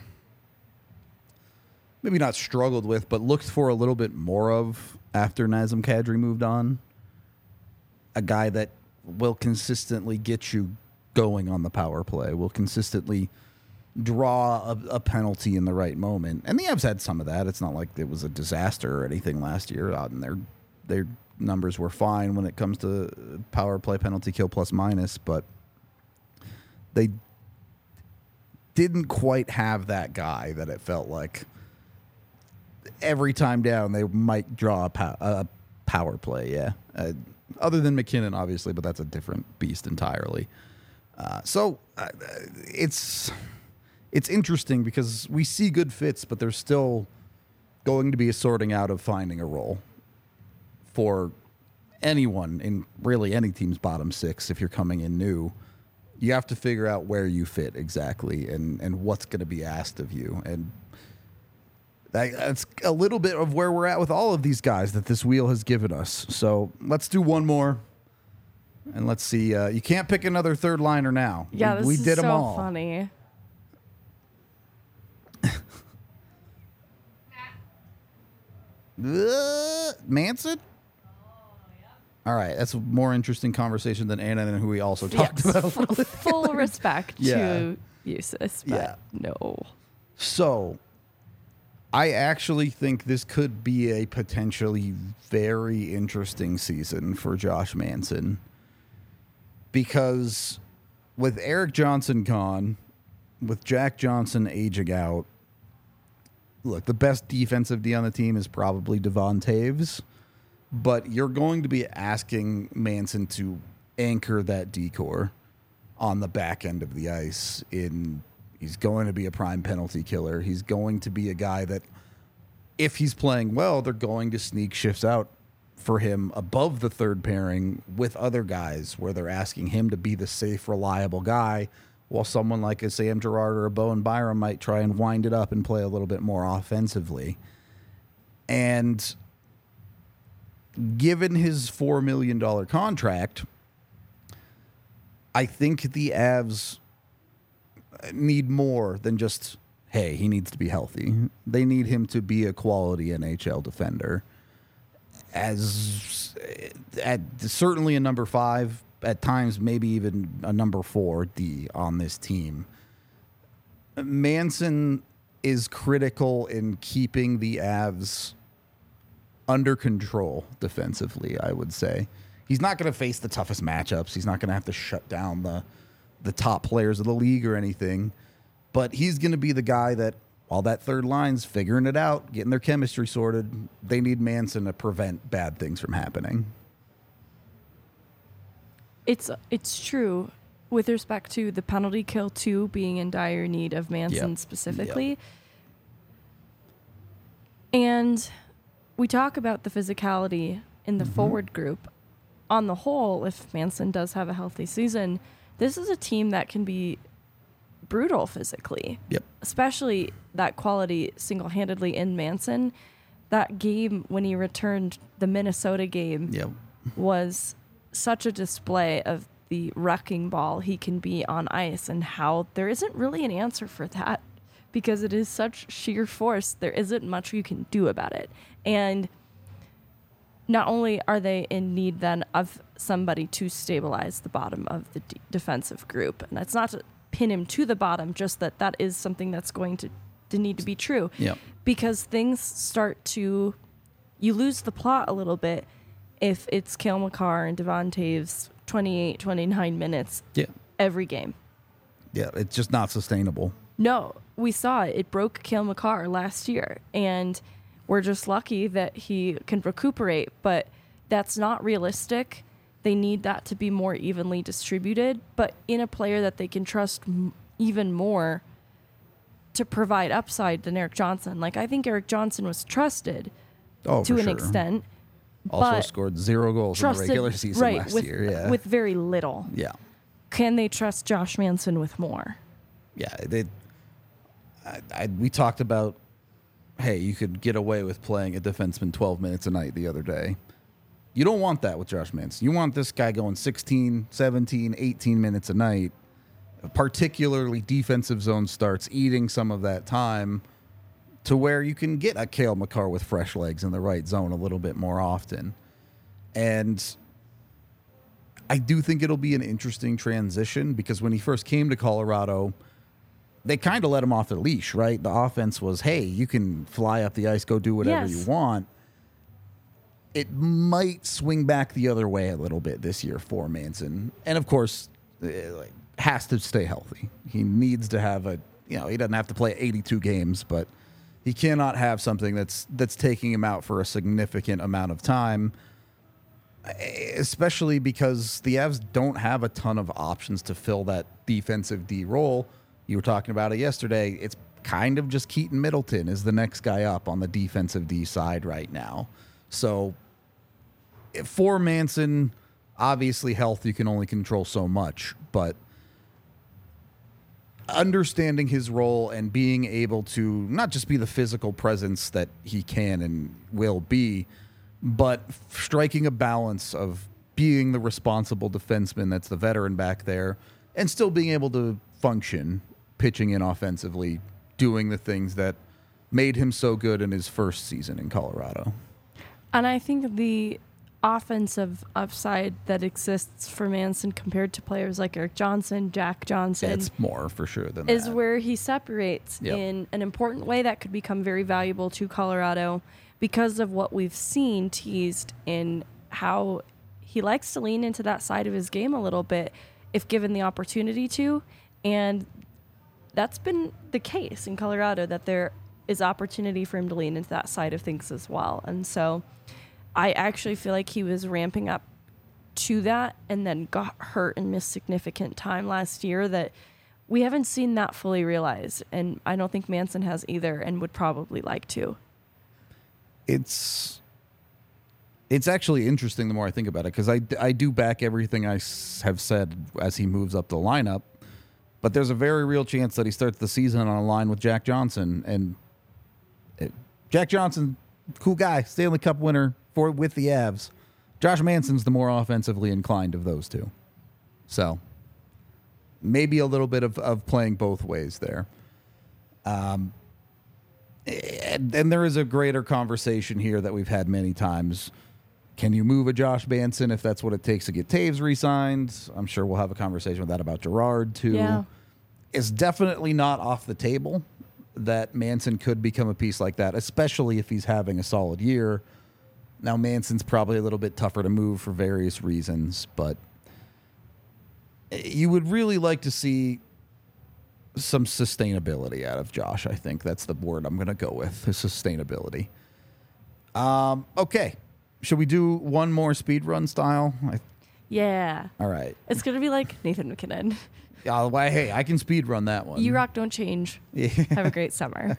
maybe not struggled with, but looked for a little bit more of after Nazem Kadri moved on. A guy that will consistently get you going on the power play, will consistently draw a, a penalty in the right moment. And the Avs had some of that. It's not like it was a disaster or anything last year. Uh, and their their numbers were fine when it comes to power play penalty kill plus minus, but they didn't quite have that guy that it felt like every time down they might draw a, pow- a power play. Yeah. Uh, other than McKinnon, obviously, but that's a different beast entirely. Uh, so uh, it's it's interesting because we see good fits, but there's still going to be a sorting out of finding a role for anyone in really any team's bottom six. If you're coming in new, you have to figure out where you fit exactly and, and what's going to be asked of you. And that, that's a little bit of where we're at with all of these guys that this wheel has given us. So let's do one more. And let's see. Uh, you can't pick another third liner now. Yeah, we, this we is did so them all. funny. Uh, Manson? All right, that's a more interesting conversation than Anna and who we also talked Yes, about. f- full respect Yeah. to Eustace, but Yeah. no. So, I actually think this could be a potentially very interesting season for Josh Manson because with Eric Johnson gone, with Jack Johnson aging out, look, the best defensive D on the team is probably Devon Taves, but you're going to be asking Manson to anchor that decor on the back end of the ice. In he's going to be a prime penalty killer. He's going to be a guy that, if he's playing well, they're going to sneak shifts out for him above the third pairing with other guys where they're asking him to be the safe, reliable guy, while someone like a Sam Girard or a Bowen Byram might try and wind it up and play a little bit more offensively. And given his four million dollars contract, I think the Avs need more than just, hey, he needs to be healthy. They need him to be a quality N H L defender. As at certainly a number five, at times maybe even a number four D on this team. Manson is critical in keeping the Avs under control defensively, I would say. He's not going to face the toughest matchups. He's not going to have to shut down the the top players of the league or anything. But he's going to be the guy that, while that third line's figuring it out, getting their chemistry sorted, they need Manson to prevent bad things from happening. It's it's true with respect to the penalty kill two being in dire need of Manson Yep. specifically. Yep. And we talk about the physicality in the Mm-hmm. forward group. On the whole, if Manson does have a healthy season, this is a team that can be brutal physically. Yep. Especially that quality single-handedly in Manson. That game when he returned, the Minnesota game, Yep. was such a display of the wrecking ball he can be on ice, and how there isn't really an answer for that because it is such sheer force. There isn't much you can do about it. And not only are they in need then of somebody to stabilize the bottom of the d- defensive group, and that's not to pin him to the bottom, just that that is something that's going to, to need to be true. Yep. Because things start to, you lose the plot a little bit if it's Cale Makar and Devon Taves twenty-eight, twenty-nine minutes Yeah. every game. Yeah. It's just not sustainable. No, we saw it. It broke Cale Makar last year, and we're just lucky that he can recuperate, but that's not realistic. They need that to be more evenly distributed, but in a player that they can trust m- even more to provide upside than Eric Johnson. Like, I think Eric Johnson was trusted Oh, to for an sure. extent, Also but scored zero goals in the trusted- regular season right, last with, year. Yeah. with very little. yeah. Can they trust Josh Manson with more? Yeah. They, I, I, we talked about, hey, you could get away with playing a defenseman twelve minutes a night the other day. You don't want that with Josh Manson. You want this guy going sixteen, seventeen, eighteen minutes a night, particularly defensive zone starts, eating some of that time to where you can get a Cale Makar with fresh legs in the right zone a little bit more often. And I do think it'll be an interesting transition because when he first came to Colorado, they kind of let him off the leash, right? The offense was, hey, you can fly up the ice, go do whatever Yes. you want. It might swing back the other way a little bit this year for Manson. And of course, eh, like, has to stay healthy. He needs to have a, you know, he doesn't have to play eighty-two games, but he cannot have something that's that's taking him out for a significant amount of time, especially because the Avs don't have a ton of options to fill that defensive D role. You were talking about it yesterday. It's kind of just Keaton Middleton is the next guy up on the defensive D side right now. So for Manson, obviously health, you can only control so much, but understanding his role and being able to not just be the physical presence that he can and will be, but striking a balance of being the responsible defenseman that's the veteran back there and still being able to function, pitching in offensively, doing the things that made him so good in his first season in Colorado. And I think the offensive upside that exists for Manson compared to players like Eric Johnson, Jack Johnson, It's more for sure than is that. where he separates Yep. in an important way that could become very valuable to Colorado because of what we've seen teased in how he likes to lean into that side of his game a little bit if given the opportunity to. And that's been the case in Colorado, that there is opportunity for him to lean into that side of things as well. And so I actually feel like he was ramping up to that and then got hurt and missed significant time last year that we haven't seen that fully realized. And I don't think Manson has either and would probably like to. It's it's actually interesting the more I think about it because I, I do back everything I s- have said as he moves up the lineup, but there's a very real chance that he starts the season on a line with Jack Johnson. And it, Jack Johnson, cool guy, Stanley Cup winner for with the Avs. Josh Manson's the more offensively inclined of those two. So maybe a little bit of, of playing both ways there. Um, and, and there is a greater conversation here that we've had many times. Can you move a Josh Manson if that's what it takes to get Taves re-signed? I'm sure we'll have a conversation with that about Gerard too. Yeah. It's definitely not off the table that Manson could become a piece like that, especially if he's having a solid year. Now, Manson's probably a little bit tougher to move for various reasons, but you would really like to see some sustainability out of Josh. I think that's the word I'm going to go with, is sustainability. Um, okay. Should we do one more speed run style? I, Yeah. all right. It's going to be like Nathan McKinnon. Yeah, well, hey, I can speed run that one. You rock, don't change. Yeah. Have a great summer.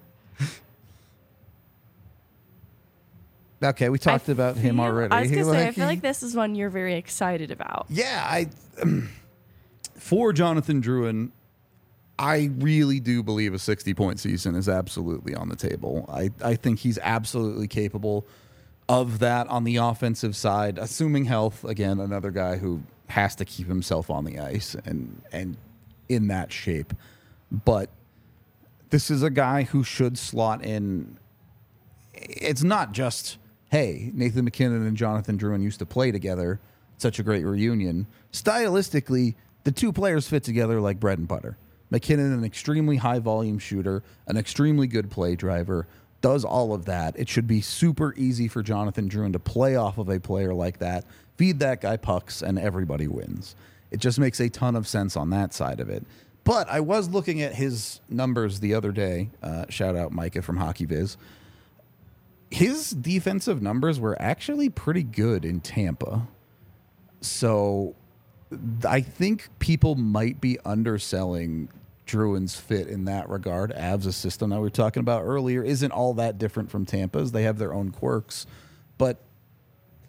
Okay, we talked I about him feel- already. I was going to say, I Like, feel like this is one you're very excited about. Yeah, I for Jonathan Drouin, I really do believe a sixty-point season is absolutely on the table. I, I think he's absolutely capable of that on the offensive side, assuming health. Again, another guy who has to keep himself on the ice and and in that shape. But this is a guy who should slot in. It's not just, hey, Nathan McKinnon and Jonathan Drouin used to play together. Such a great reunion. Stylistically, the two players fit together like bread and butter. McKinnon, an extremely high volume shooter, an extremely good play driver, does all of that. It should be super easy for Jonathan Drouin to play off of a player like that, feed that guy pucks, and everybody wins. It just makes a ton of sense on that side of it. But I was looking at his numbers the other day. Uh, shout out Micah from Hockey Viz. His defensive numbers were actually pretty good in Tampa. So I think people might be underselling Drouin's fit in that regard. Avs' system that we were talking about earlier isn't all that different from Tampa's. They have their own quirks. But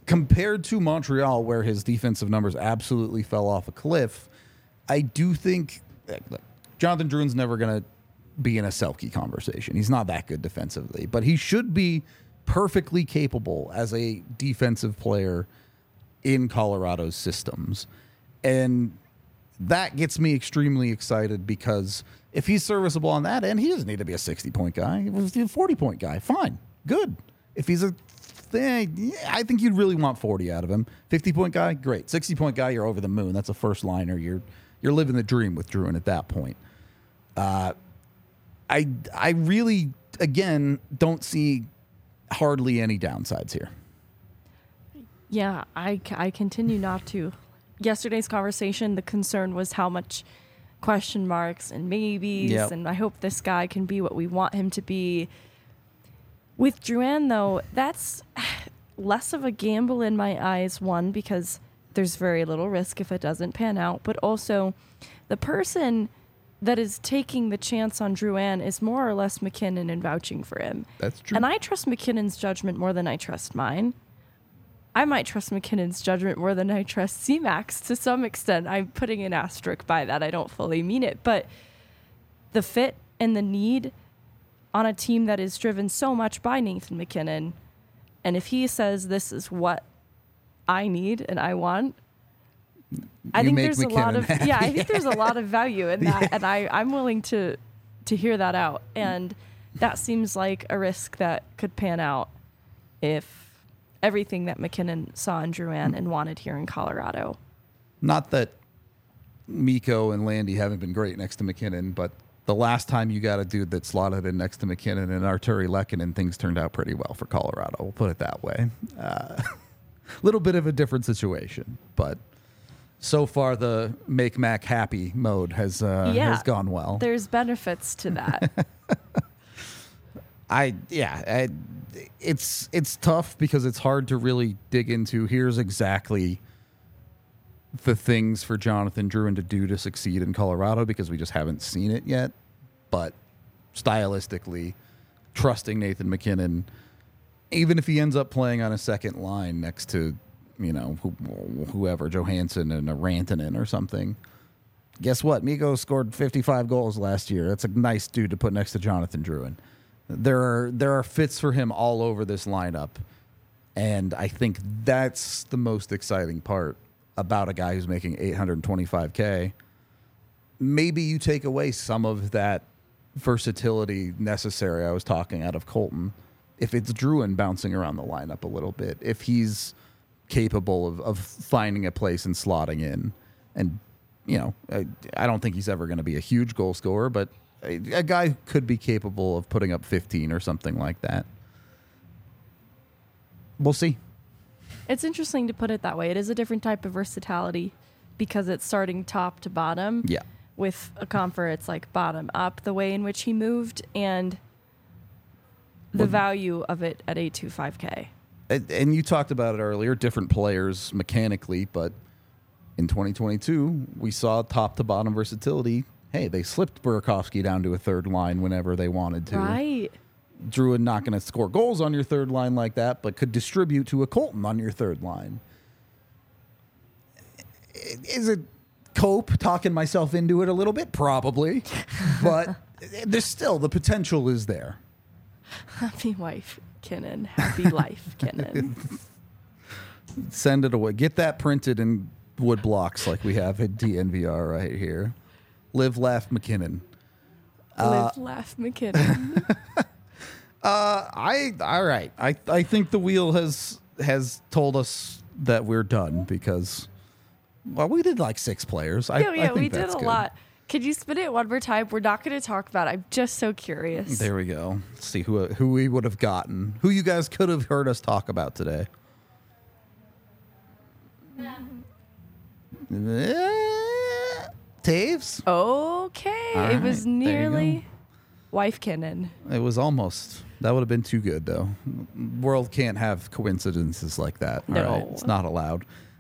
compared to Montreal, where his defensive numbers absolutely fell off a cliff, I do think look, Jonathan Drouin's never going to be in a Selke conversation. He's not that good defensively, but he should be perfectly capable as a defensive player in Colorado's systems. And that gets me extremely excited because if he's serviceable on that end, he doesn't need to be a sixty-point guy. If he's a forty-point guy, fine, good. If he's a thing, I think you'd really want forty out of him. fifty-point guy, great. sixty-point guy, you're over the moon. That's a first liner. You're you're living the dream with Drouin at that point. Uh, I I really, again, don't see hardly any downsides here. Yeah, I, I continue not to. Yesterday's conversation, the concern was how much question marks and maybes, Yep. and I hope this guy can be what we want him to be. With Drouin, though, that's less of a gamble in my eyes, one, because there's very little risk if it doesn't pan out, but also the person that is taking the chance on Drouin is more or less McKinnon and vouching for him. That's true. And I trust McKinnon's judgment more than I trust mine. I might trust McKinnon's judgment more than I trust C-Max to some extent. I'm putting an asterisk by that. I don't fully mean it. But the fit and the need on a team that is driven so much by Nathan McKinnon, and if he says this is what I need and I want, I You think make there's a lot McKinnon of happy. yeah, I think there's a lot of value in that, and I, I'm willing to to hear that out. And that seems like a risk that could pan out if everything that McKinnon saw in Drouin and wanted here in Colorado. Not that Mikko and Landy haven't been great next to McKinnon, but the last time you got a dude that slotted in next to McKinnon and Arturi Lehkonen, things turned out pretty well for Colorado. We'll put it that way. A uh, little bit of a different situation, but so far the make Mac happy mode has uh, Yeah. has gone well. There's benefits to that. I yeah, I, it's it's tough because it's hard to really dig into. Here's exactly the things for Jonathan Drouin to do to succeed in Colorado because we just haven't seen it yet. But stylistically, trusting Nathan McKinnon, even if he ends up playing on a second line next to, you know, who, whoever, Johansson and a Rantanen or something. Guess what? Mikko scored fifty-five goals last year. That's a nice dude to put next to Jonathan Drouin. There are there are fits for him all over this lineup, and I think that's the most exciting part about a guy who's making eight hundred twenty-five K. Maybe you take away some of that versatility necessary I was talking out of Colton. If it's Drouin bouncing around the lineup a little bit, if he's capable of, of finding a place and slotting in, and you know, I, I don't think he's ever going to be a huge goal scorer, but a, a guy who could be capable of putting up fifteen or something like that. We'll see. It's interesting to put it that way. It is a different type of versatility because it's starting top to bottom. Yeah. With a Compher, it's like bottom up, the way in which he moved, and the Well, value of it at eight twenty-five K. And, and you talked about it earlier, different players mechanically, but in twenty twenty-two, we saw top to bottom versatility. Hey, they slipped Burakovsky down to a third line whenever they wanted to. Right. Drouin not going to score goals on your third line like that, but could distribute to a Colton on your third line. Is it cope talking myself into it a little bit? Probably. But there's still, the potential is there. Happy wife, Kinnan. Happy life, Kinnan. Send it away. Get that printed in wood blocks like we have at D N V R right here. Live, laugh, McKinnon. Live, laugh, McKinnon. Uh, I all right. I I think the wheel has has told us that we're done because, well, we did like six players. I, yeah, I yeah, think we did that's a good. lot. Could you spin it one more time? We're not going to talk about it. I'm just so curious. There we go. Let's see who who we would have gotten. Who you guys could have heard us talk about today. Eh, Taves? Okay. All it was right, there you nearly wife Kinnan. It was almost. That would have been too good, though. World can't have coincidences like that. All No. right? It's not allowed.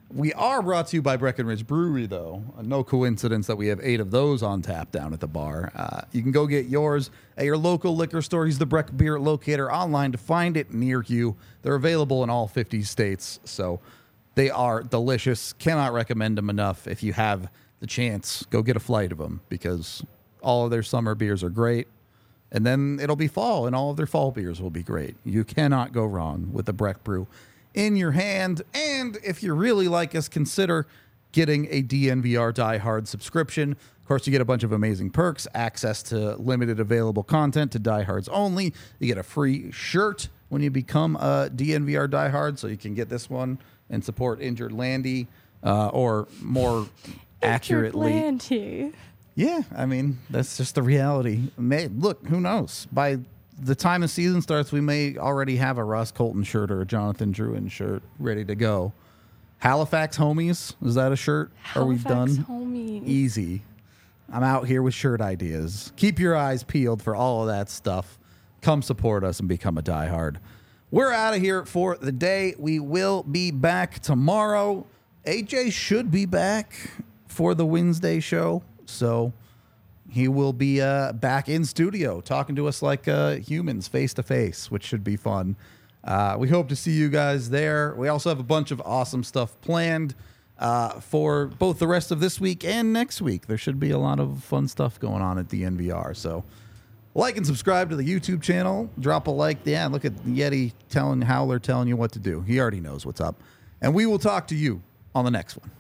We are brought to you by Breckenridge Brewery, though. Uh, no coincidence that we have eight of those on tap down at the bar. Uh, you can go get yours at your local liquor store. Use the Breck Beer Locator online to find it near you. They're available in all fifty states, so they are delicious. Cannot recommend them enough. If you have the chance, go get a flight of them because all of their summer beers are great. And then it'll be fall, and all of their fall beers will be great. You cannot go wrong with the Breck Brew in your hand. And if you really like us, consider getting a D N V R Die Hard subscription. Of course, you get a bunch of amazing perks, access to limited available content to Die Hards only. You get a free shirt when you become a D N V R Die Hard, so you can get this one and support Injured Landy, uh, or more accurately. Landy. Yeah, I mean, that's just the reality. May, look, who knows? By the time the season starts, we may already have a Ross Colton shirt or a Jonathan Drouin shirt ready to go. Halifax Homies, is that a shirt? Are we Halifax done? Homies. Easy. I'm out here with shirt ideas. Keep your eyes peeled for all of that stuff. Come support us and become a diehard. We're out of here for the day. We will be back tomorrow. A J should be back for the Wednesday show. So he will be uh, back in studio talking to us like uh, humans face to face, which should be fun. Uh, we hope to see you guys there. We also have a bunch of awesome stuff planned uh, for both the rest of this week and next week. There should be a lot of fun stuff going on at the N V R. So like and subscribe to the YouTube channel. Drop a like. Yeah, look at Yeti telling Howler telling you what to do. He already knows what's up. And we will talk to you on the next one.